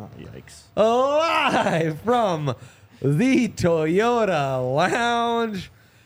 Oh, yikes. Live from the Toyota Lounge,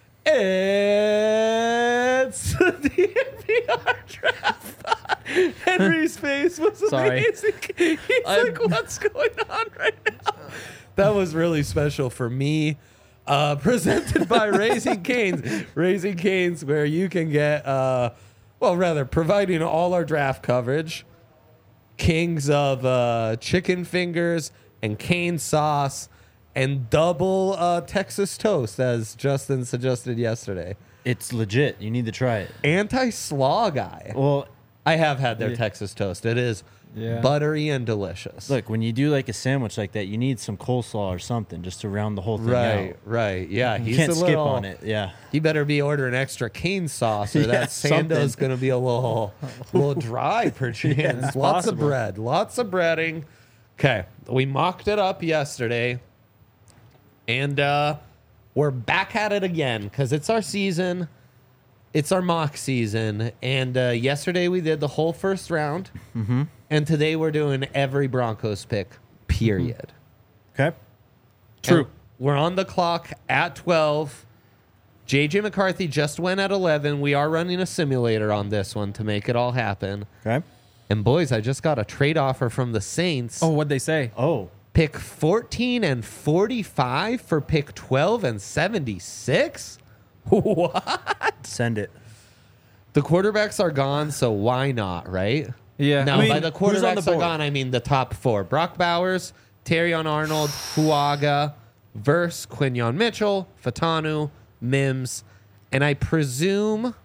it's the DNVR Draft Pod. Henry's face was amazing. He's like, what's going on right now? That was really special for me. Presented by Raising Cane's. Raising Cane's, where you can get, providing all our draft coverage. Kings of chicken fingers and cane sauce and double Texas toast, as Justin suggested yesterday. It's legit. You need to try it. Anti-slaw guy. Well, I have had their Texas toast. It is buttery and delicious. look, when you do like a sandwich like that, you need some coleslaw or something just to round the whole thing out. Right. Yeah, You can't skip on it. Yeah. He better be ordering extra cane sauce, or that sando's something. going to be a little dry per chance. it's Lots of possible. bread. Lots of breading. Okay, we mocked it up yesterday, and we're back at it again because it's our season. It's our mock season, and yesterday we did the whole first round, and today we're doing every Broncos pick, period. Okay. True. And we're on the clock at 12. JJ McCarthy just went at 11. We are running a simulator on this one to make it all happen. Okay. And boys, I just got a trade offer from the Saints. Oh, what'd they say? Oh, Pick 14 and 45 for pick 12 and 76? What? send it. The quarterbacks are gone, so why not, right? Yeah. Now, I mean, by the who's on the quarterbacks are board? gone, I mean the top four. Brock Bowers, Terrion Arnold, Fuaga, Verse, Quinyon Mitchell, Fatanu, Mims, and I presume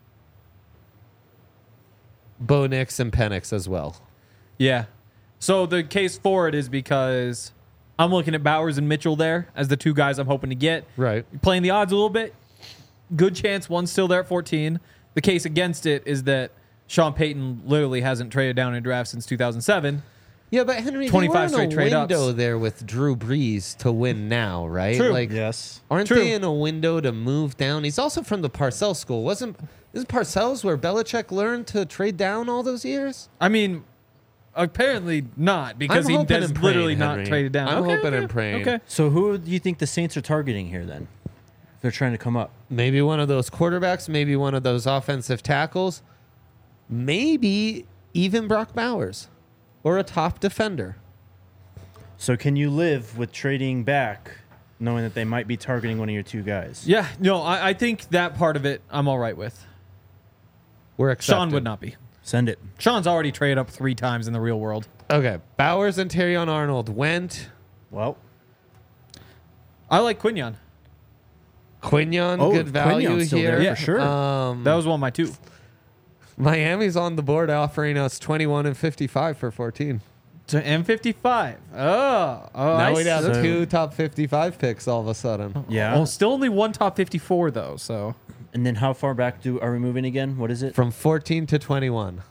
Bo Nix and Penix as well. Yeah. So the case for it is because I'm looking at Bowers and Mitchell there as the two guys I'm hoping to get. Right. Playing the odds a little bit. Good chance one's still there at 14. The case against it is that Sean Payton literally hasn't traded down in a draft since 2007. Yeah, but Henry, 25 they were in straight a trade-ups. window there with Drew Brees to win now, right? True. Like, Yes. aren't True. they in a window to move down? He's also from the Parcells school. Isn't Parcells where Belichick learned to trade down all those years? I mean, apparently not because I'm he hoping does and literally praying, not Henry. traded down. I'm Okay, hoping okay, and praying. Okay. So who do you think the Saints are targeting here then? If they're trying to come up. Maybe one of those quarterbacks, maybe one of those offensive tackles, maybe even Brock Bowers or a top defender. So can you live with trading back knowing that they might be targeting one of your two guys? Yeah, no, I think that part of it I'm all right with. We're accepted. Sean would not be. Send it. Sean's already traded up 3 times in the real world. Okay, Bowers and Terrion Arnold went. Well, I like Quinyon. Quinyon, Oh, good value Quinyon's still here. there for sure. That was one of my 2. Miami's on the board offering us 21 and 55 for 14. To M55. Oh, Now I we'd have see. So- 2 top 55 picks all of a sudden. yeah. Well, still only one top 54 though. So And then how far back are we moving again? What is it? From 14 to 21.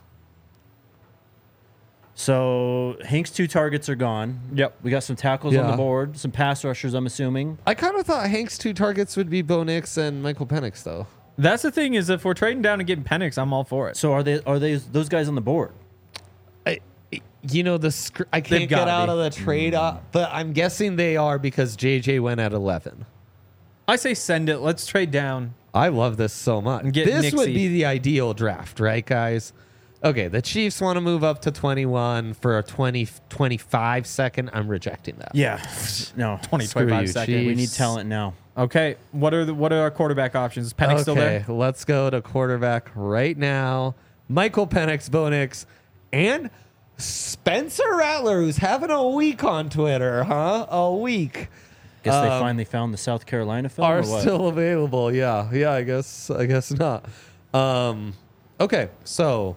So Hank's 2 targets are gone. Yep. We got some tackles on Yeah. the board, some pass rushers, I'm assuming. I kind of thought Hank's 2 targets would be Bo Nix and Michael Penix, though. that's the thing is if we're trading down and getting Penix, I'm all for it. So are they those guys on the board? I can't get gotta out be. of the trade, but I'm guessing they are because JJ went at 11. I say send it. Let's trade down. I love this so much. And get This would Nixie. be the ideal draft, right, guys? Okay, the Chiefs want to move up to 21 for a 20-25 second. I'm rejecting that. Yeah. No. 20, Screw 25 you, seconds. Chiefs. We need talent now. Okay. What are our quarterback options? Is Penix still there? Okay, let's go to quarterback right now. Michael Penix, Bo Nix, and Spencer Rattler, who's having a week on Twitter, huh? A week. Guess they finally found the South Carolina film Are or what? still available. Yeah, I guess not. Okay, so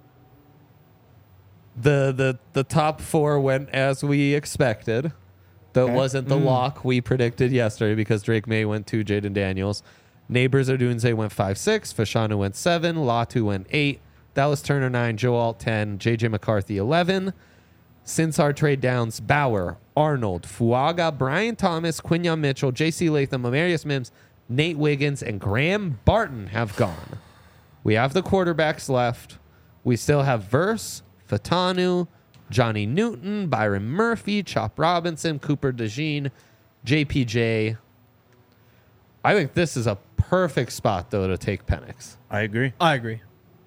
the top 4 went as we expected. That Okay. wasn't the lock we predicted yesterday because Drake May went 2, Jaden Daniels. Neighbors Odunze went 5-6, Fashanu went 7, Latu went 8, Dallas Turner 9, Joe Alt 10, JJ McCarthy 11. Since our trade downs, Bauer, Arnold, Fuaga, Brian Thomas, Quinyon Mitchell, J.C. Latham, Amarius Mims, Nate Wiggins, and Graham Barton have gone. We have the quarterbacks left. We still have Verse, Fatanu, Johnny Newton, Byron Murphy, Chop Robinson, Cooper DeJean, JPJ. I think this is a perfect spot, though, to take Penix. I agree. I agree.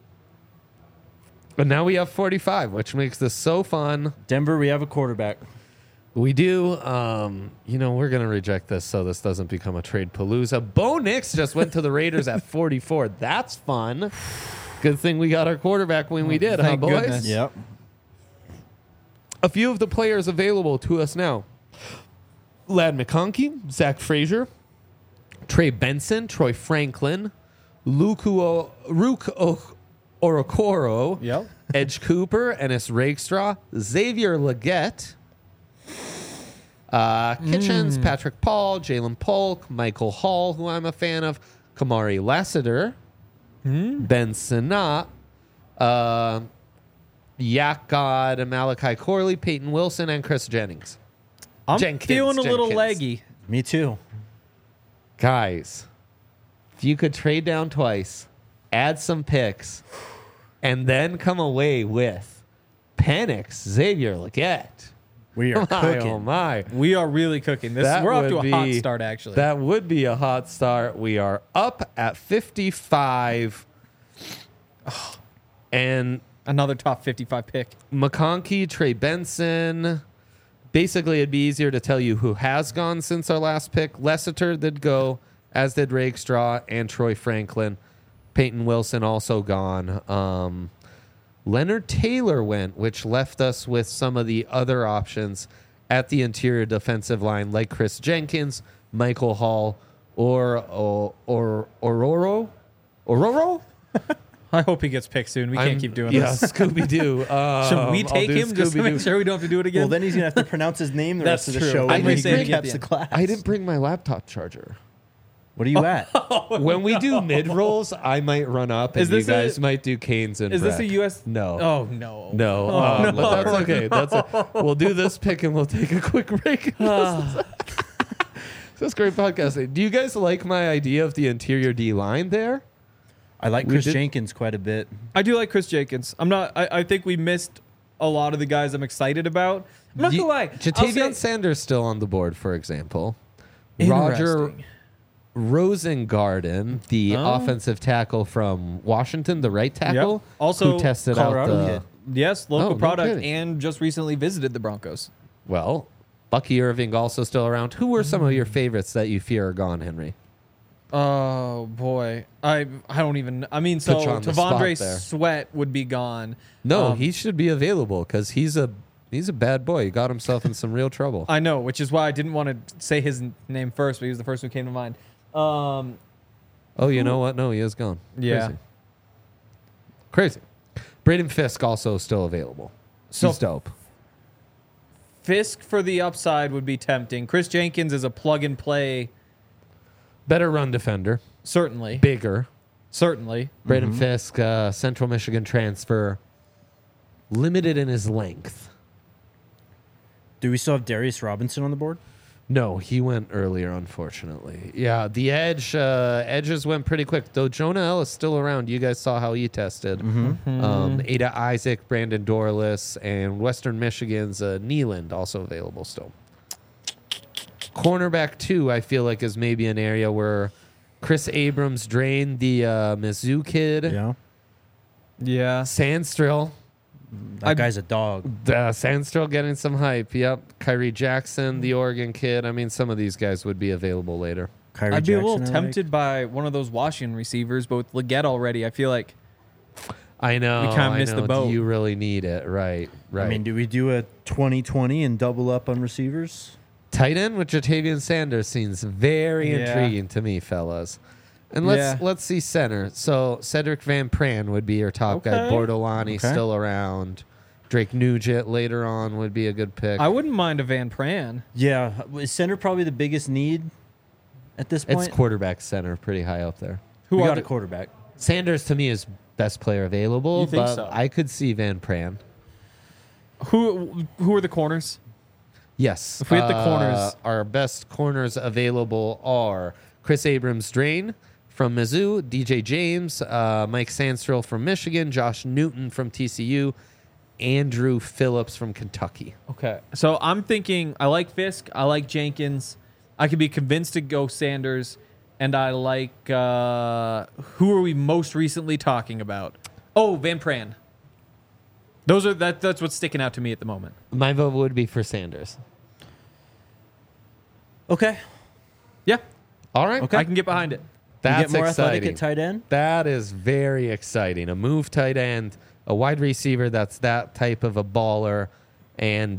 But now we have 45, which makes this so fun. Denver, we have a quarterback. We do. We're going to reject this so this doesn't become a trade palooza. Bo Nix just went to the Raiders at 44. That's fun. Good thing we got our quarterback when we did, huh, Thank boys? goodness. Yep. A few of the players available to us now. Lad McConkey, Zach Frazier, Trey Benson, Troy Franklin, Rook Orokoro, Yep. Edge Cooper, Ennis Rakestraw, Xavier Legette, Kitchens, Patrick Paul, Jalen Polk, Michael Hall, who I'm a fan of, Kamari Lassiter, Ben Sinnott, Yak God, Malachi Corley, Peyton Wilson, and Chris Jennings. I'm Jenkins, feeling a little Jenkins. leggy. Me too. Guys, if you could trade down twice, add some picks, and then come away with Penix, Xavier Legette. We are My, cooking. oh my. We are really cooking this. That We're off to would a hot be- start, actually. That would be a hot start. We are up at 55. And Another top 55 pick. McConkey, Trey Benson. Basically, it'd be easier to tell you who has gone since our last pick. Lessiter did go, as did Rakestraw and Troy Franklin. Peyton Wilson also gone. Leonard Taylor went, which left us with some of the other options at the interior defensive line, like Chris Jenkins, Michael Hall, or Ororo. I hope he gets picked soon. We can't keep doing this. Scooby Doo. Should we take him just to make sure we don't have to do it again? Well, then he's gonna have to pronounce his name the That's rest of the true. show. I and may he say it recaps again. the class. I didn't bring my laptop charger. What are you at? When we do mid rolls, I might run up, and Is you this guys a- might do Canes and Is this a Breck. U.S.? No. Oh, no. No, but that's okay. We'll do this pick and we'll take a quick break. This is great podcasting. Do you guys like my idea of the interior D line there? I like We Chris did- Jenkins quite a bit. I do like Chris Jenkins. I think we missed a lot of the guys I'm excited about. I'm not going to lie. I'll Jatavion say- Sanders still on the board, for example. Roger Interesting. Rosengarten, the Oh. offensive tackle from Washington, the right tackle, Yep. Also, who tested Colorado out the kid. Yes, local Oh, no product, kidding. and just recently visited the Broncos. Well, Bucky Irving also still around. Who were some of your favorites that you fear are gone, Henry? Oh boy, I don't even. I mean, so Put you on the spot Tavondre there. Sweat would be gone. No, he should be available because he's a bad boy. He got himself in some real trouble. I know, which is why I didn't want to say his name first, but he was the first who came to mind. Oh, you know what? No, he is gone. Yeah. Crazy. Braden Fisk also still available. So- He's dope. Fisk for the upside would be tempting. Chris Jenkins is a plug and play, Better run defender. certainly. Bigger. Certainly. Braden Fisk, Central Michigan transfer. Limited in his length. Do we still have Darius Robinson on the board? No, he went earlier, unfortunately. Yeah, the edges went pretty quick. Though Jonah Ellis still around. You guys saw how he tested. Ada Isaac, Brandon Dorless, and Western Michigan's Neeland also available still. Cornerback 2, I feel like, is maybe an area where Chris Abrams drained the Mizzou kid. Yeah. Yeah. Sandstrill. That guy's a dog. Sandstrill getting some hype. Yep. Kyrie Jackson, the Oregon kid. I mean, some of these guys would be available later. Kyrie I'd be a Jackson, little I tempted by one of those Washington receivers, but with Leggett already, I feel like I know. We kinda I missed the know. boat. Do you really need it? Right. Right. I mean, do we do a 20-20 and double up on receivers? tight end with Jatavion Sanders seems very Yeah. intriguing to me, fellas. And Yeah. let's see center. So Cedric Van Pran would be your top guy. Okay. Bordolani Okay. still around. Drake Nugent later on would be a good pick. I wouldn't mind a Van Pran. Yeah. Is center probably the biggest need at this point? It's quarterback center, pretty high up there. Who we are got the, a quarterback. Sanders to me is best player available, You think but so? I could see Van Pran. who are the corners? Yes. If we hit the corners- Our best corners available are Chris Abrams Drain from Mizzou, DJ James, Mike Sandstrill from Michigan, Josh Newton from TCU, Andrew Phillips from Kentucky. Okay. So I'm thinking I like Fisk. I like Jenkins. I could be convinced to go Sanders. And I like, who are we most recently talking about? Oh, Van Pran. That's what's sticking out to me at the moment. My vote would be for Sanders. Okay. Yeah. All right. Okay. I can get behind it. That's you get more athletic exciting. at tight end. That is very exciting. A move tight end, a wide receiver that's that type of a baller, and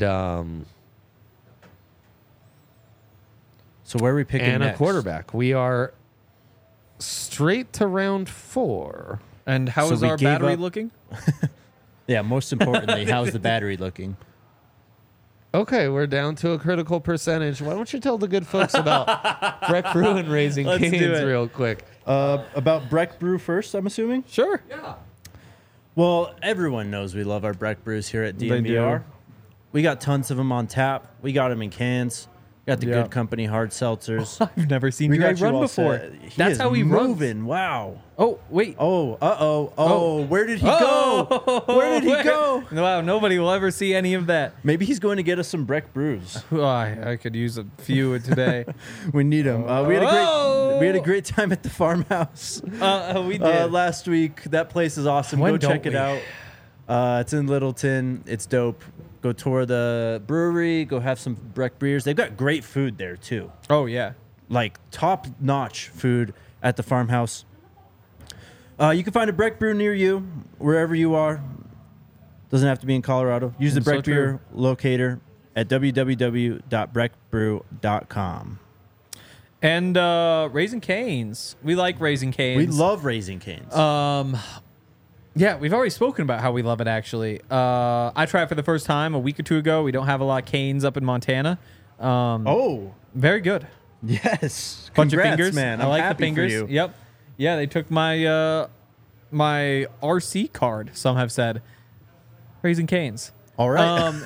So where are we picking and next? a quarterback. We are straight to round 4. And how So is we our gave battery up- looking? Yeah, most importantly, how's the battery looking? Okay, we're down to a critical percentage. Why don't you tell the good folks about Breck Brew and Raising Let's do Cane's it. real quick? About Breck Brew first, I'm assuming? Sure. Well, everyone knows we love our Breck Brews here at They DNVR. do. We got tons of them on tap. We got them in cans. Got the Yeah. Good Company hard seltzers. I've never seen We Dre got you run all before. set. He That's is how he runs. moving. Wow. Oh, wait. Oh, uh-oh. Oh. Where did he go? Where did he go? Wow, nobody will ever see any of that. Maybe he's going to get us some Breck Brews. Oh, I could use a few today. We need them. We had a great time at the farmhouse We did. last week. That place is awesome. When Go don't check it we? out. It's in Littleton. It's dope. Go tour the brewery. Go have some Breck beers. They've got great food there too. Oh, yeah. Like top-notch food at the farmhouse. You can find a Breck brew near you, wherever you are. Doesn't have to be in Colorado. Use the That's so Breck beer locator at www.breckbrew.com. And Raising Cane's. We like Raising Cane's. We love Raising Cane's. Yeah, we've already spoken about how we love it, actually. I tried it for the first time a week or two ago. We don't have a lot of canes up in Montana. Oh, Very good. yes. Bunch Congrats, of fingers. man. I I'm like happy the fingers. For you. Yep. Yeah, they took my my RC card, some have said. Raising Cane's. All right.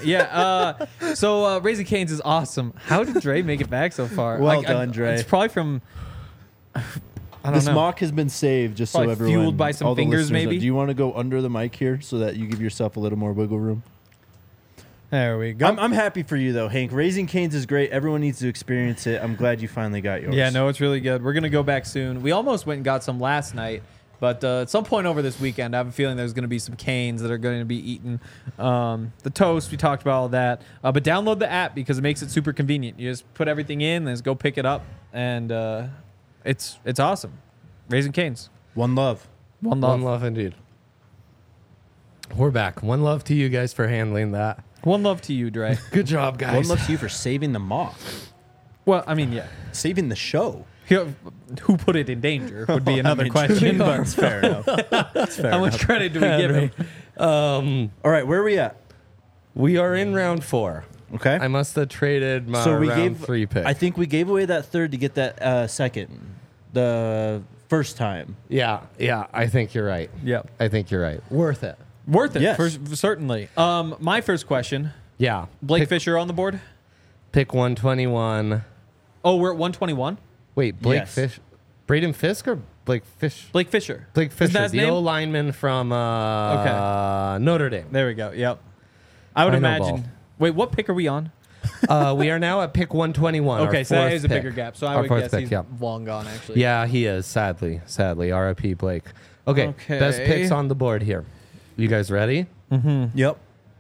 So Raising Cane's is awesome. How did Dre make it back so far? Well done, Dre. It's probably from... I don't This know. mock has been saved just Probably so everyone. fueled by some all the fingers, listeners know. maybe? Do you want to go under the mic here so that you give yourself a little more wiggle room? There we go. I'm happy for you though, Hank. Raising Cane's is great. Everyone needs to experience it. I'm glad you finally got yours. Yeah, no, it's really good. We're going to go back soon. We almost went and got some last night, but at some point over this weekend, I have a feeling there's going to be some canes that are going to be eaten. The toast, we talked about all that. But download the app because it makes it super convenient. You just put everything in, then just go pick it up, and it's awesome. Raising Cane's. One love. One love. One love indeed. We're back. One love to you guys for handling that. One love to you, Dre. Good job, guys. One love to you for saving the mock, Well, I mean, yeah. saving the show. Who put it in danger would be another I mean, question. But That's fair enough. That's fair how enough. much credit do we give him? All right, where are we at? We are in round 4. Okay. I must have traded my so we round gave 3 pick. I think we gave away that third to get that second, the first time. yeah, I think you're right. Yep. I think you're right. Worth it. Worth it, Yes. certainly. My first question. Yeah. Blake pick, Fisher on the board? pick 121. Oh, we're at 121? Wait, Blake Yes. Fish. Braden Fisk or Blake Fish? Blake Fisher. Blake Isn't Fisher, that his the name? old lineman from Notre Dame. There we go. Yep. I would I know imagine. ball. Wait, what pick are we on? We are now at pick 121. Okay, our so that fourth is a pick. bigger gap. So I Our would fourth guess pick, he's yeah. long gone, actually. Yeah, he is, sadly. R.I.P. Blake. Okay, Okay. best picks on the board here. You guys ready? Yep.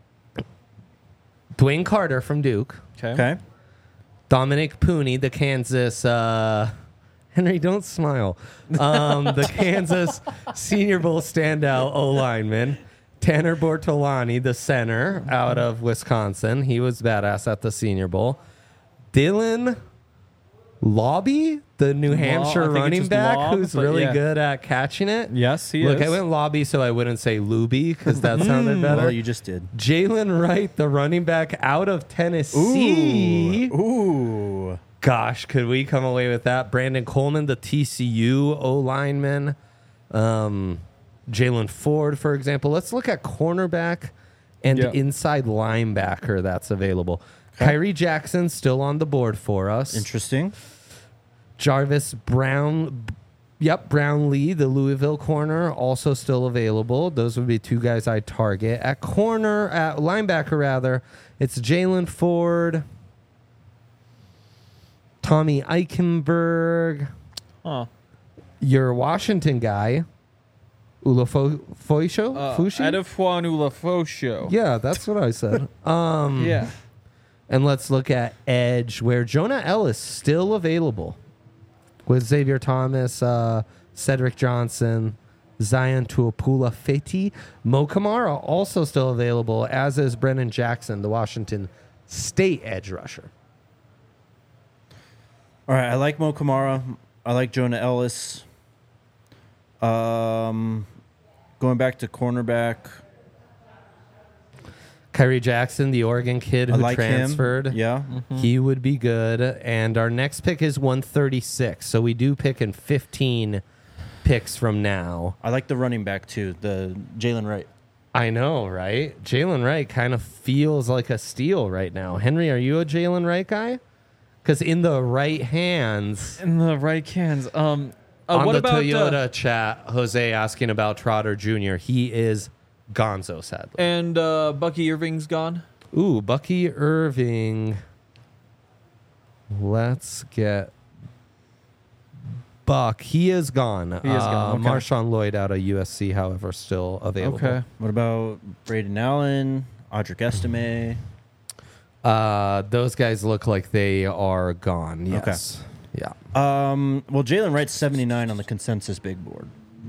Dwayne Carter from Duke. Okay. Dominic Pooney, the Kansas... Henry, don't smile. The Kansas Senior Bowl standout O-lineman. Tanner Bortolani, the center out of Wisconsin. He was badass at the Senior Bowl. Dylan Lobby, the New Hampshire I think it's running just back, Lob, who's but really yeah. good at catching it. Yes, he Look, is. I went Lobby so I wouldn't say Luby because that sounded better. Well, you just did. Jalen Wright, the running back out of Tennessee. Ooh. Gosh, could we come away with that? Brandon Coleman, the TCU O-lineman. Jalen Ford, for example. Let's look at cornerback and Yeah. inside linebacker that's available. Kyrie Jackson still on the board for us. Interesting. Jarvis Brown, Yep, Brownlee, the Louisville corner, also still available. Those would be two guys I'd target. At linebacker rather, it's Jalen Ford, Tommy Eichenberg, your Washington guy, Fushi? Adefwan Ulafosho. Yeah, that's what I said. Yeah. And let's look at edge, where Jonah Ellis still available with Xavier Thomas, Cedric Johnson, Zion Tuapula-Feti. Mo Kamara also still available, as is Brennan Jackson, the Washington State edge rusher. All right, I like Mo Kamara. I like Jonah Ellis. Going back to cornerback. Kyrie Jackson, the Oregon kid who like transferred. him. Yeah. He would be good. And our next pick is 136. So we do pick in 15 picks from now. I like the running back too, the Jalen Wright. I know, right? Jalen Wright kind of feels like a steal right now. Henry, are you a Jalen Wright guy? Because in the right hands. In the right hands. On what the about Toyota chat, Jose asking about Trotter Jr. He is gonzo, sadly. And Bucky Irving's gone? Ooh, Bucky Irving. Let's get Buck. He is gone. He is gone. Okay. Marshawn Lloyd out of USC, however, still available. Okay. What about Braden Allen, Audric Estime? Those guys look like they are gone. Yes. Yeah. Well, Jalen Wright's 79 on the consensus big board.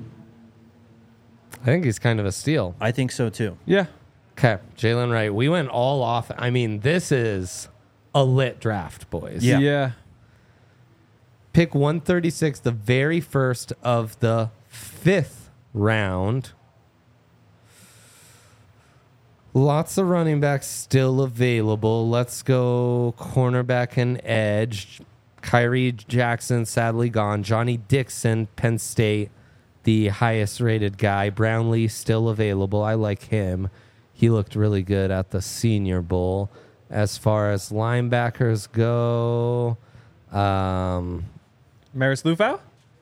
I think he's kind of a steal. I think so too. Yeah. Okay, Jalen Wright. We went all off. I mean, this is a lit draft, boys. Yeah. Yeah. Pick 136, the very first of the 5th round. Lots of running backs still available. Let's go cornerback and edge. Kyrie Jackson, sadly gone. Johnny Dixon, Penn State, the highest rated guy. Brownlee still available. I like him. He looked really good at the Senior Bowl. As far as linebackers go, Maris Lufau?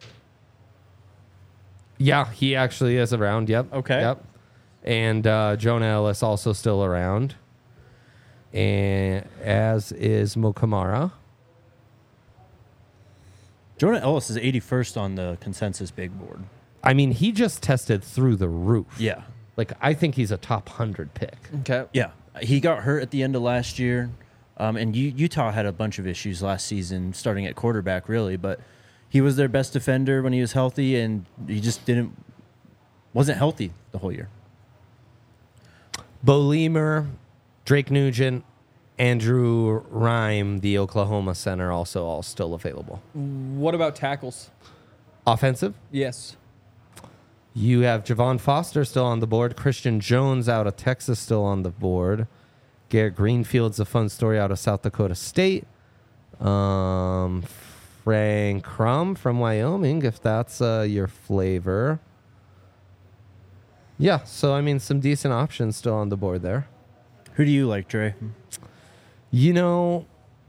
yeah, he actually is around. Yep. Okay. Yep. And Jonah Ellis also still around. And as is Mo Kamara. Jonah Ellis is 81st on the consensus big board. I mean, he just tested through the roof. Yeah. Like, I think he's a top 100 pick. Okay. Yeah. He got hurt at the end of last year. And Utah had a bunch of issues last season, starting at quarterback, really. But he was their best defender when he was healthy, and he just wasn't healthy the whole year. Bo Lemer, Drake Nugent, Andrew Rhyme, the Oklahoma center, also all still available. What about tackles? Offensive? Yes. You have Javon Foster still on the board. Christian Jones out of Texas still on the board. Garrett Greenfield's a fun story out of South Dakota State. Frank Crum from Wyoming, if that's your flavor. Yeah, so, I mean, some decent options still on the board there. Who do you like, Dre? You know,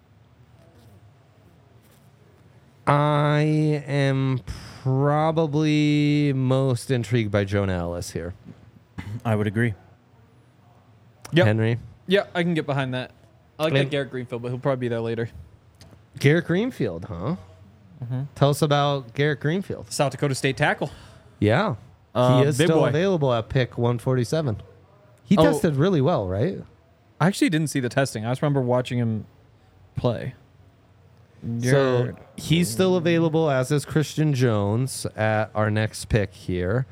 I am probably most intrigued by Jonah Ellis here. I would agree. Yep. Henry? Yeah, I can get behind that. I like And- that Garrett Greenfield, but he'll probably be there later. Garrett Greenfield, huh? Tell us about Garrett Greenfield. South Dakota State tackle. Yeah. He is big still boy. available at pick 147. He Oh. tested really well, right? I actually didn't see the testing. I just remember watching him play. So he's still available, as is Christian Jones at our next pick here.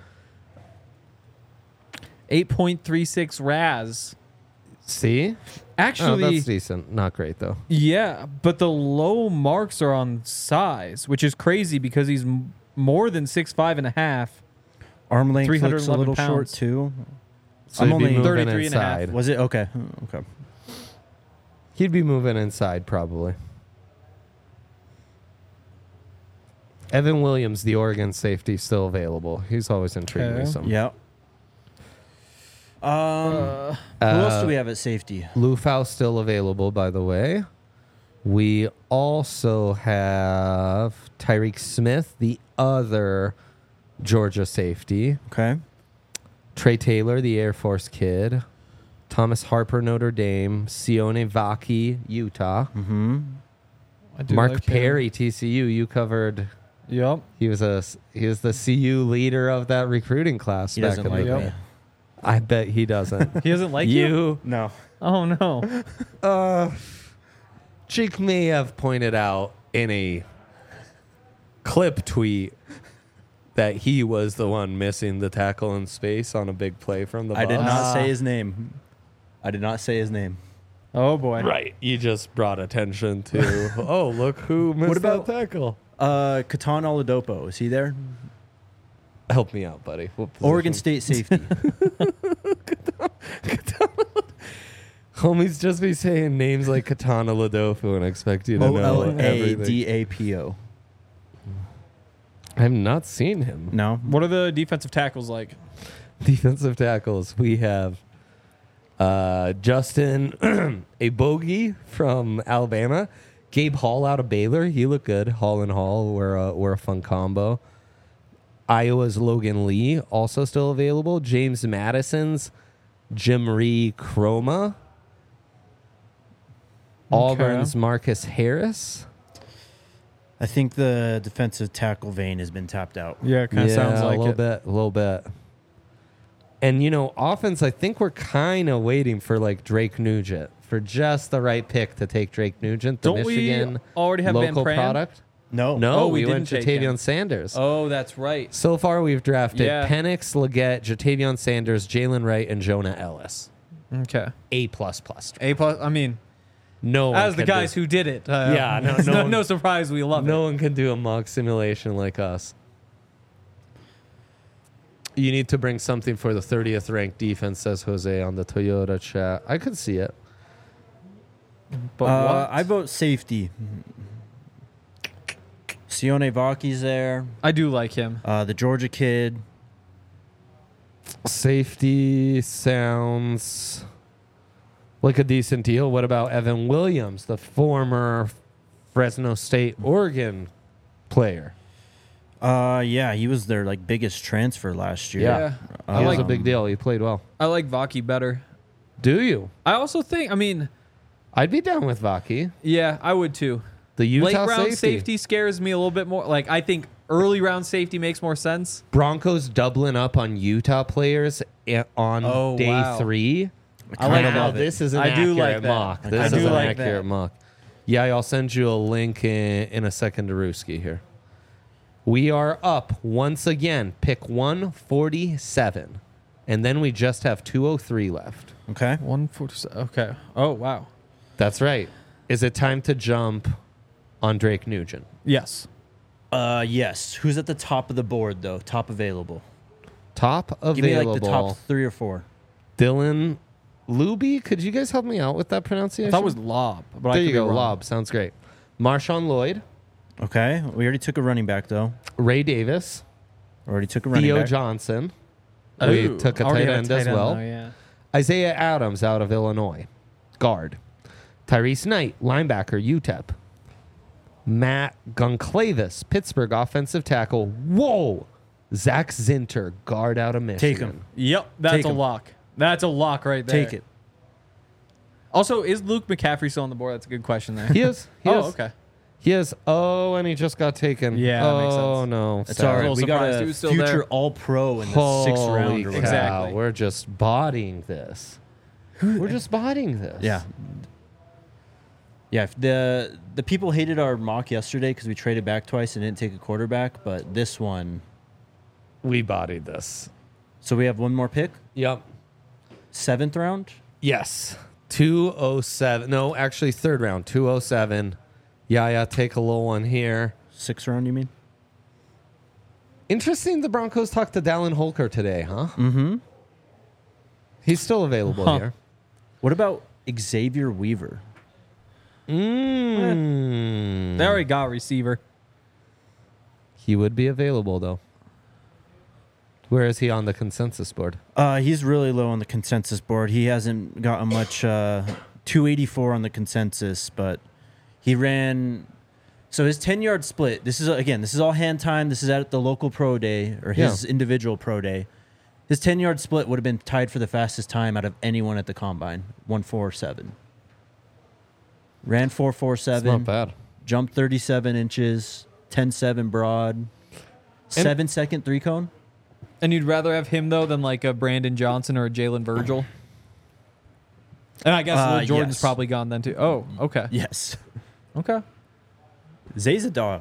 8.36 RAS. See? Actually, Oh, that's decent. Not great, though. yeah, but the low marks are on size, which is crazy because he's more than 6'5" and a half. Arm length looks a 311 little short, pounds. too. So I'm he'd be only moving 33 and a half. inside. Was it? Okay. Okay. He'd be moving inside, probably. Evan Williams, the Oregon safety, still available. He's always intrigued me Okay. some. Yeah. Who else do we have at safety? Lufau still available, by the way. We also have Tyreek Smith, the other Georgia safety. Okay. Trey Taylor, the Air Force kid. Thomas Harper, Notre Dame. Sione Vaki, Utah. Mm-hmm. I do Mark like him. Perry, TCU. You covered. Yep. He was the CU leader of that recruiting class. He back doesn't in the like day. me. I bet he doesn't. He doesn't like you. No. Oh no. Cheek may have pointed out in a clip tweet that he was the one missing the tackle in space on a big play from the I did Bucs. not say his name. I did not say his name. Oh boy. Right. You just brought attention to, oh, look who missed What about- that tackle. Katan Oladopo, is he there? Help me out, buddy. What Oregon position? State safety. Homies just be saying names like Katana Ladofu and expect you to know everything. OLADAPO. I have not seen him. No. What are the defensive tackles like? Defensive tackles. We have Justin Abogi from Alabama. Gabe Hall out of Baylor. He looked good. Hall and Hall were a fun combo. Iowa's Logan Lee also still available. James Madison's Jimri Chroma. Auburn's Marcus Harris. I think the defensive tackle vein has been tapped out. Yeah, it kind of sounds like a little it. bit, a little bit. And offense, I think we're kind of waiting for like Drake Nugent for just the right pick to take Drake Nugent, the Don't Michigan we already have Van local Pran? product. No. No, Oh, we we went didn't take Jatavion him. Sanders. Oh, that's right. So far, we've drafted Yeah. Penix, Leggett, Jatavion Sanders, Jalen Wright, and Jonah Ellis. Okay. A++. A plus. I mean, No, one as the can guys do, who did it. Yeah, no, it's no one- no surprise we love no it. one can do a mock simulation like us. You need to bring something for the 30th ranked defense, says Jose on the Toyota chat. I could see it. But what? I vote safety. Sione Vaki's there. I do like him. The Georgia kid. Safety sounds like a decent deal. What about Evan Williams, the former Fresno State Oregon player? Yeah, he was their biggest transfer last year. Yeah. He was like a big deal. He played well. I like Vaki better. Do you? I also think, I mean, I'd be down with Vaki. yeah, I would too. The Utah Late round safety. safety scares me a little bit more. Like, I think early round safety makes more sense. Broncos doubling up on Utah players on Oh, day wow. 3. I like Wow, love it. this is an I do accurate like that. mock. I This do is an like accurate that. mock. Yeah, I'll send you a link in a second to Ruski here. We are up once again. Pick 147. And then we just have 203 left. Okay. 147. Okay. Oh, wow. That's right. Is it time to jump on Drake Nugent? Yes. Yes. Who's at the top of the board though? Top available. Top available. Give me the top 3 or 4. Dylan Luby. Could you guys help me out with that pronunciation? I thought it was Lob. But I There could you be go. wrong. Lob. Sounds great. Marshawn Lloyd. Okay. We already took a running back though. Ray Davis. Already took a running Theo back. Johnson. We Ooh, took a already tight have end as well. though, yeah. Isaiah Adams out of Illinois. Guard. Tyrese Knight, linebacker, UTEP. Matt Goncalves, Pittsburgh offensive tackle. Whoa! Zach Zinter, guard out of Michigan. Take him. Yep. That's Take a him. lock. That's a lock right there. Take it. Also, is Luke McCaffrey still on the board? That's a good question there. He is. He Oh, is. okay. He is. Oh, and he just got taken. Yeah, that makes Oh, sense. no. That's Sad. all right. little We got surprised a he was still future there. All-Pro in the 6th Holy round. Or cow. whatever. Exactly. We're just bodying this. We're just bodying this. Yeah. Yeah. The people hated our mock yesterday because we traded back twice and didn't take a quarterback, but this one. We bodied this. So we have one more pick. Yep. 7th round. Yes. 207. No, actually, 3rd round. 207. Yeah, take a little one here. 6th round, you mean? Interesting the Broncos talked to Dallin Holker today, huh? Mm-hmm. He's still available Huh. here. What about Xavier Weaver? Mm. They already got receiver. He would be available, though. Where is he on the consensus board? He's really low on the consensus board. He hasn't gotten much. 284 on the consensus, but He ran. So his 10-yard split. This is all hand time. This is at the local pro day or his individual pro day. His 10-yard split would have been tied for the fastest time out of anyone at the combine. 1:47. Ran 4.47. Not bad. Jumped 37 inches. 10.7 broad. 7-second 3-cone. And you'd rather have him, though, than like a Brandon Johnson or a Jalen Virgil? And I guess Lil Jordan's yes. probably gone then, too. Oh, okay. Yes. Okay. Zay's a dog.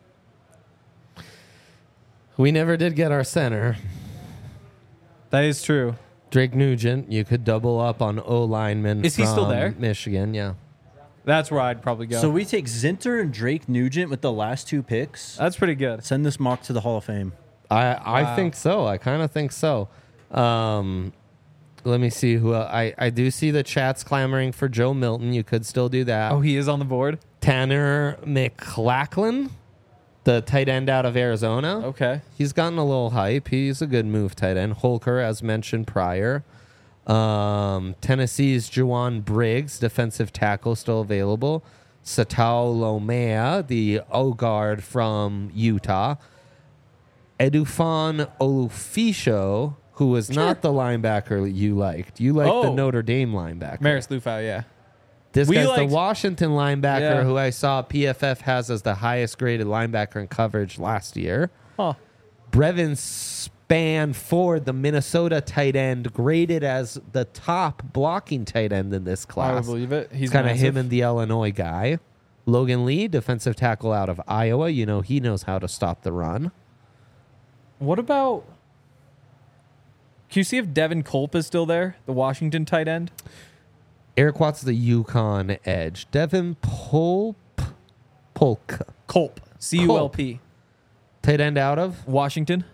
We never did get our center. That is true. Drake Nugent, you could double up on O lineman. Is he still there? Michigan, yeah. That's where I'd probably go. So we take Zinter and Drake Nugent with the last 2 picks. That's pretty good. Send this mock to the Hall of Fame. I think so. I kind of think so. Let me see who I do see the chats clamoring for Joe Milton. You could still do that. Oh, he is on the board? Tanner McLachlan, the tight end out of Arizona. Okay. He's gotten a little hype. He's a good move tight end. Holker, as mentioned prior. Tennessee's Juwan Briggs, defensive tackle, still available. Satao Lomea, the O-guard from Utah. Edufan Olufisho, who was not the linebacker you liked. You liked the Notre Dame linebacker. Maris Lufau, yeah. This We guy's liked- the Washington linebacker Yeah. who I saw PFF has as the highest graded linebacker in coverage last year. Huh. Brevin Spanford, the Minnesota tight end, graded as the top blocking tight end in this I class. would believe it. He's Kind of massive. him and the Illinois guy. Logan Lee, defensive tackle out of Iowa. You know, he knows how to stop the run. What about... Can you see if Devin Culp is still there? The Washington tight end? Eric Watts, the Yukon edge. Devin Polk, Culp. C-U-L-P. tight end out of? Washington?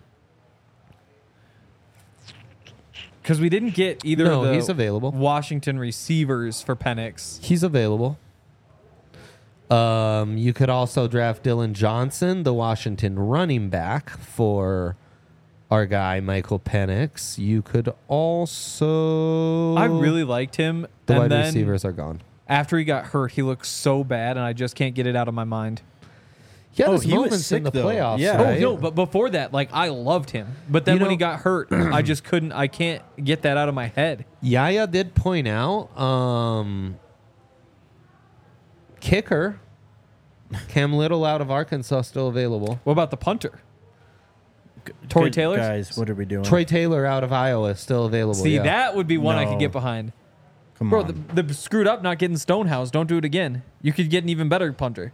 Because we didn't get either No, of the he's available. Washington receivers for Penix. He's available. You could also draft Dylan Johnson, the Washington running back, for our guy Michael Penix. You could also. I really liked him. The and wide then receivers are gone. after he got hurt, he looked so bad, and I just can't get it out of my mind. Yeah, Oh, there's he was moments sick, in the though. playoffs. Yeah. right? Oh, no, but before that, like, I loved him. But then You when know- he got hurt, I just couldn't, I can't get that out of my head. Yaya did point out kicker Cam Little out of Arkansas still available. What about the punter? Tory Good- Taylor? Guys, what are we doing? Troy Taylor out of Iowa still available. See, yeah. that would be one I could No. get behind. Come Bro, on. the screwed up not getting Stonehouse. Don't do it again. You could get an even better punter.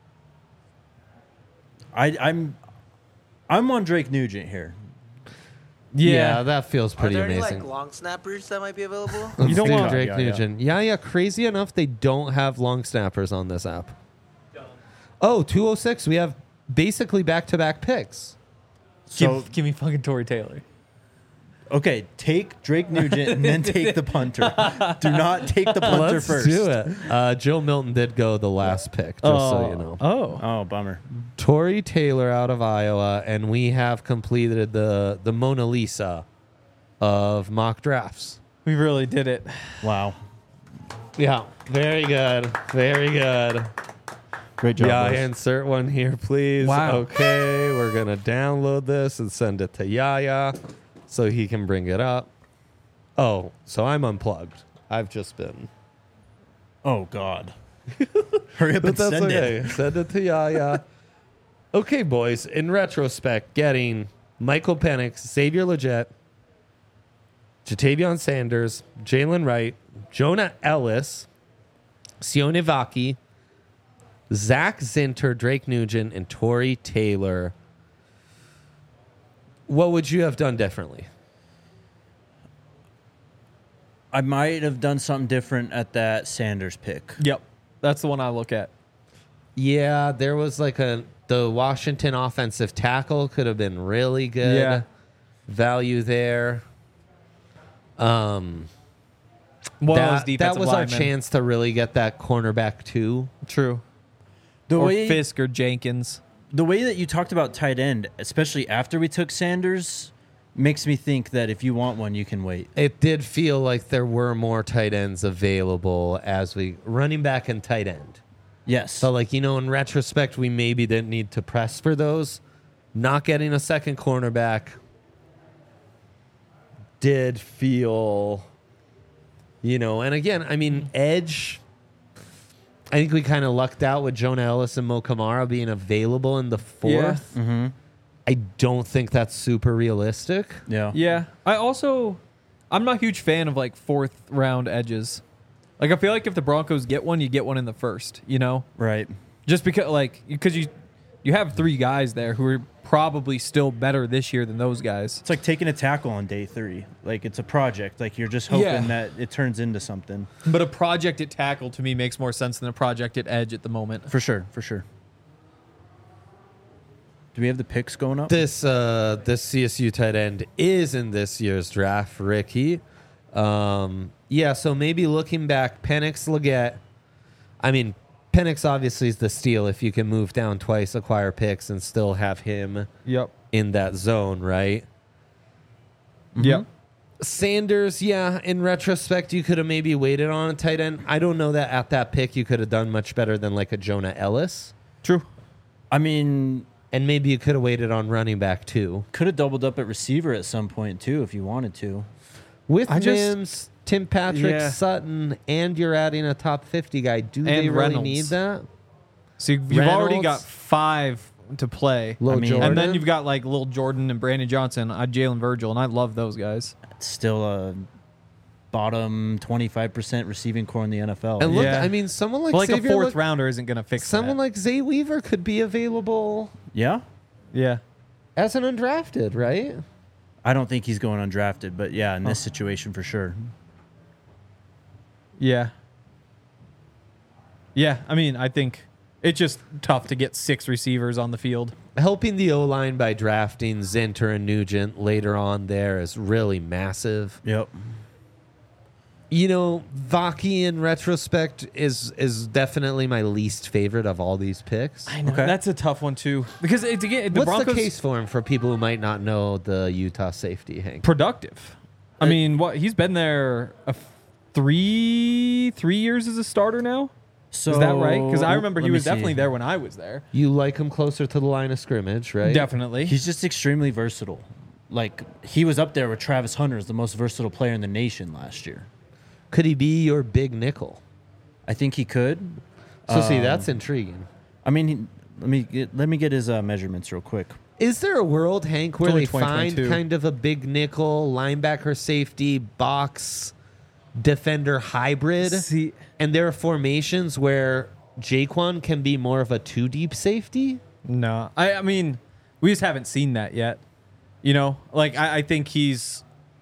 I'm on Drake Nugent here. Yeah, that feels Are pretty there any amazing. like long snappers that might be available? Let's don't do want- Drake Yeah, yeah. Nugent. Yeah, crazy enough, they don't have long snappers on this app. Oh, 206. We have basically back-to-back picks. So give me fucking Tory Taylor. okay, take Drake Nugent and then take the punter. Do not take the punter Let's first. do it. Joe Milton did go the last pick, just so you know. Oh. Oh, bummer. Tory Taylor out of Iowa, and we have completed the Mona Lisa of mock drafts. We really did it. Wow. Yeah, very good. Very good. Great job. Yeah, boys. insert one here, please. Wow. Okay, we're going to download this and send it to Yaya so he can bring it up. Oh, so I'm unplugged. I've just been. Oh, God. Hurry up But and that's send okay. it. Send it to Yaya. Okay, boys. In retrospect, getting Michael Penix, Xavier Legette, Jatavion Sanders, Jalen Wright, Jonah Ellis, Sione Vaki, Zach Zinter, Drake Nugent, and Tory Taylor. What would you have done differently? I might have done something different at that Sanders pick. Yep. That's the one I look at. Yeah, there was like the Washington offensive tackle could have been really good. Yeah. Value there. One of those That defensive was our linemen. chance to really get that cornerback too. True. The Or way Fisk or Jenkins. the way that you talked about tight end, especially after we took Sanders, makes me think that if you want one, you can wait. It did feel like there were more tight ends available as we running back and tight end. Yes. So, like, in retrospect, we maybe didn't need to press for those. Not getting a second cornerback did feel, and again, I mean, edge, I think we kind of lucked out with Jonah Ellis and Mo Kamara being available in the fourth. Yeah. Mm-hmm. I don't think that's super realistic. Yeah. Yeah. I'm not a huge fan of like fourth round edges. Like, I feel like if the Broncos get one, you get one in the first, Right. Just because you have 3 guys there who are probably still better this year than those guys. It's like taking a tackle on day 3. Like, it's a project. Like, you're just hoping that it turns into something. But a project at tackle to me makes more sense than a project at edge at the moment. For sure. Do we have the picks going up? This CSU tight end is in this year's draft, Ricky. So maybe looking back, Penix, Leggett. I mean, Penix obviously is the steal if you can move down twice, acquire picks, and still have him in that zone, right? Yep. Sanders, in retrospect, you could have maybe waited on a tight end. I don't know that at that pick you could have done much better than like a Jonah Ellis. True. I mean, And maybe you could have waited on running back too. could have doubled up at receiver at some point too if you wanted to. With I just- Mims, Tim Patrick, Yeah. Sutton, and you're adding a top 50 guy. Do they really Reynolds. need that? So you've already Reynolds. got 5 to play. Lil mean- Jordan. And then you've got like Lil Jordan and Brandon Johnson, Jalen Virgil, and I love those guys. It's still a bottom 25% receiving core in the NFL. And look, Yeah. I mean, someone like But like Xavier, a fourth rounder isn't going to fix someone that. like Zay Weaver could be available Yeah? Yeah. as an undrafted, right? I don't think he's going undrafted, but yeah, in this situation for sure. Yeah. Yeah, I mean, I think it's just tough to get 6 receivers on the field. Helping the O-line by drafting Zinter and Nugent later on there is really massive. Yep. Vaki in retrospect is definitely my least favorite of all these picks. I know. Okay. That's a tough one, too. Because it's, again, the What's Broncos the case for him for people who might not know the Utah safety, Hank? productive. I mean, he's been there 3 years as a starter now? So Is that right? Because I remember let he me was see. definitely there when I was there. You like him closer to the line of scrimmage, right? Definitely. He's just extremely versatile. Like, he was up there with Travis Hunter as the most versatile player in the nation last year. Could he be your big nickel? I think he could. So see, that's intriguing. I mean, let me get his measurements real quick. Is there a world, Hank, where only they find 2022. kind of a big nickel, linebacker, safety, box, defender hybrid? See, And there are formations where Jaquan can be more of a 2-deep safety? no. I mean, we just haven't seen that yet. Like I think he's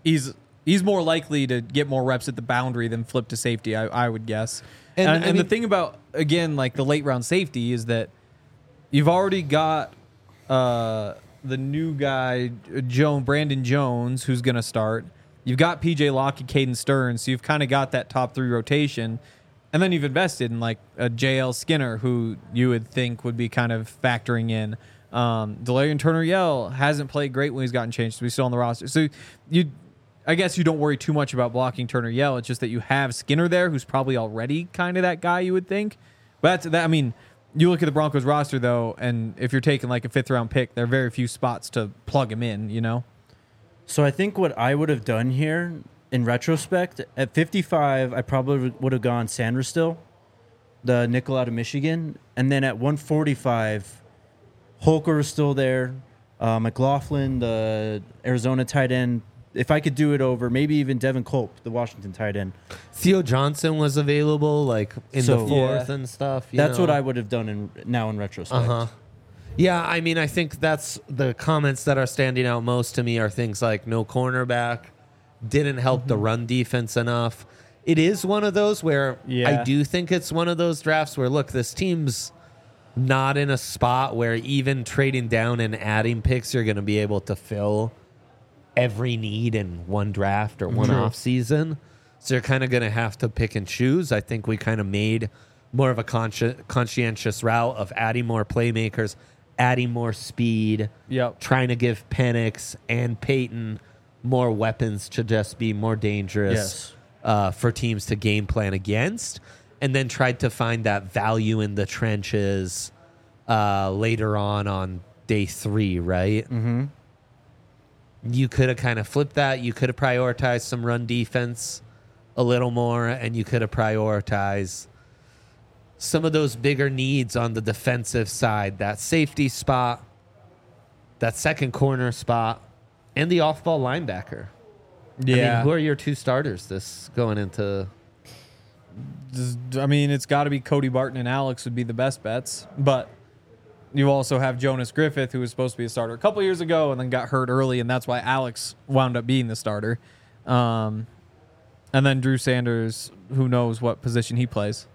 more likely to get more reps at the boundary than flip to safety, I would guess. And, And, I the mean- thing about, again, like the late round safety is that you've already got the new guy, Brandon Jones, who's going to start. You've got PJ Locke and Caden Stearns, so you've kind of got that top 3 rotation. And then you've invested in like a JL Skinner, who you would think would be kind of factoring in. Delarian Turner-Yell hasn't played great when he's gotten changed, so he's still on the roster. So I guess you don't worry too much about blocking Turner-Yell. It's just that you have Skinner there, who's probably already kind of that guy you would think. But I mean, you look at the Broncos roster though, and if you're taking like a 5th round pick, there are very few spots to plug him in. So I think what I would have done here, in retrospect, at 55, I probably would have gone Sanders still, the nickel out of Michigan, and then at 145, Holker was still there, McLaughlin, the Arizona tight end. If I could do it over, maybe even Devin Culp, the Washington tight end. Theo Johnson was available, like in So- the fourth and stuff. That's what I would have done in retrospect. Uh-huh. Yeah, I mean, I think that's the comments that are standing out most to me are things like no cornerback, didn't help the run defense enough. It is one of those where Yeah. I do think it's one of those drafts where, look, this team's not in a spot where even trading down and adding picks, you're going to be able to fill every need in one draft or one off season. So you're kind of going to have to pick and choose. I think we kind of made more of a conscientious route of adding more playmakers, adding more speed, Yep. trying to give Penix and Peyton more weapons to just be more dangerous for teams to game plan against. and then tried to find that value in the trenches later on day 3, right? Mm-hmm. You could have kind of flipped that. You could have prioritized some run defense a little more, and you could have prioritized some of those bigger needs on the defensive side, that safety spot, that second corner spot, and the off-ball linebacker. Yeah. I mean, who are your 2 starters this going into? I mean, it's got to be Cody Barton and Alex would be the best bets, but you also have Jonas Griffith, who was supposed to be a starter a couple years ago and then got hurt early, and that's why Alex wound up being the starter. And then Drew Sanders, who knows what position he plays.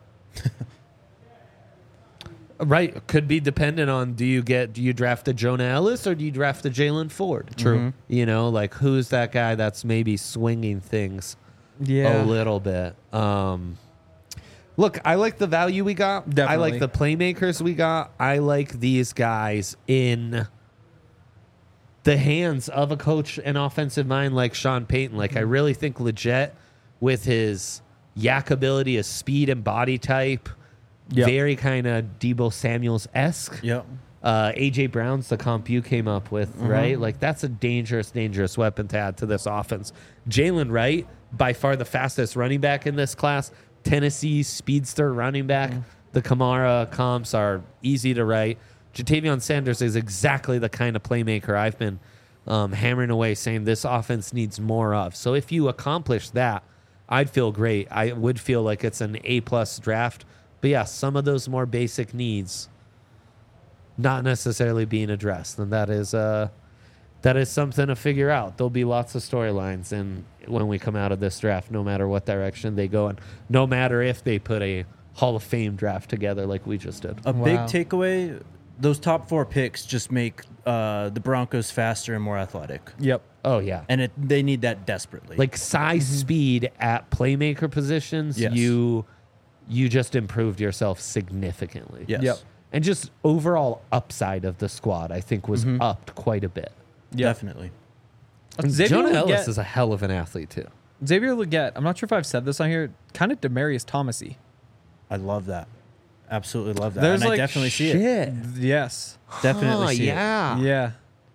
Right. Could be dependent on do you draft the Jonah Ellis or do you draft the Jalen Ford? True. You know, like who's that guy that's maybe swinging things a little bit? Look, I like the value we got. Definitely. I like the playmakers we got. I like these guys in the hands of a coach and offensive mind like Sean Payton. Like, I really think legit with his yak ability, his speed and body type, very kind of Deebo Samuels-esque. Yep. A.J. Brown's the comp you came up with, right? Like, that's a dangerous, dangerous weapon to add to this offense. Jalen Wright, by far the fastest running back in this class. Tennessee speedster running back. The Kamara comps are easy to write. Jatavion Sanders is exactly the kind of playmaker I've been hammering away saying this offense needs more of. So if you accomplish that, I'd feel great. I would feel like it's an A-plus draft. But yeah, some of those more basic needs not necessarily being addressed. And that is something to figure out. There'll be lots of storylines and when we come out of this draft, no matter what direction they go and no matter if they put a Hall of Fame draft together like we just did. A big takeaway, those top 4 picks just make the Broncos faster and more athletic. Yep. Oh, yeah. And they need that desperately. Like size, speed at playmaker positions, Yes. you just improved yourself significantly. yes. Yep. And just overall upside of the squad, I think, was upped quite a bit. Definitely. Jonah Ellis is a hell of an athlete, too. Xavier Legette, I'm not sure if I've said this on here, kind of Demarius Thomas-y. I love that. Absolutely love that. There's and I like definitely see it. Yes. Definitely see it. Yeah.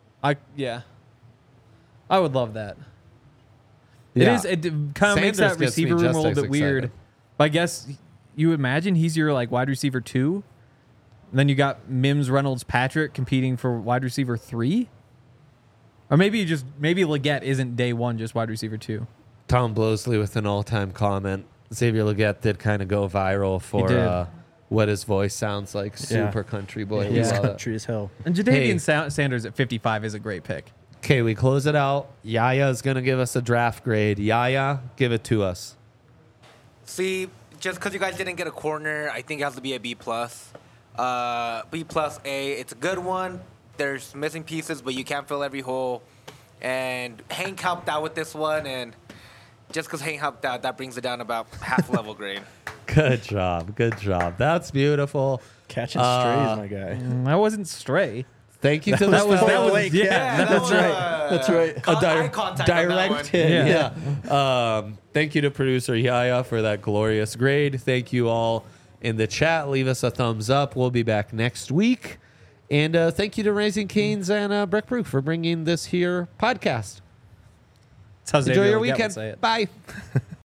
I would love that. Yeah. It kind of makes that Sanders gets me receiver room a just little as bit weird. excited. But I guess you imagine he's your like wide receiver 2. And then you got Mims, Reynolds, Patrick competing for wide receiver 3. Or maybe Legette isn't day 1 just wide receiver 2. Tom Blosley with an all-time comment. Xavier Legette did kind of go viral for what his voice sounds like. Super country boy. He's We love it. country as hell. And Jadavian Sanders at 55 is a great pick. Okay, we close it out. Yaya is going to give us a draft grade. Yaya, give it to us. See, just because you guys didn't get a corner, I think it has to be a B+. B plus A. It's a good one. There's missing pieces, but you can't fill every hole. And Hank helped out with this one, and just because Hank helped out, that brings it down about half level grade. Good job. Good job. That's beautiful. Catching strays, my guy. That wasn't stray. Thank you to the That was Blake, that's right. That's right. Eye contact on that direct one. hit. Yeah. Yeah. Thank you to producer Yaya for that glorious grade. Thank you all in the chat. Leave us a thumbs up. We'll be back next week. And thank you to Raising Cane's and Breck Brew for bringing this here podcast. That's how Enjoy Xavier your Legette would weekend. say it. Bye.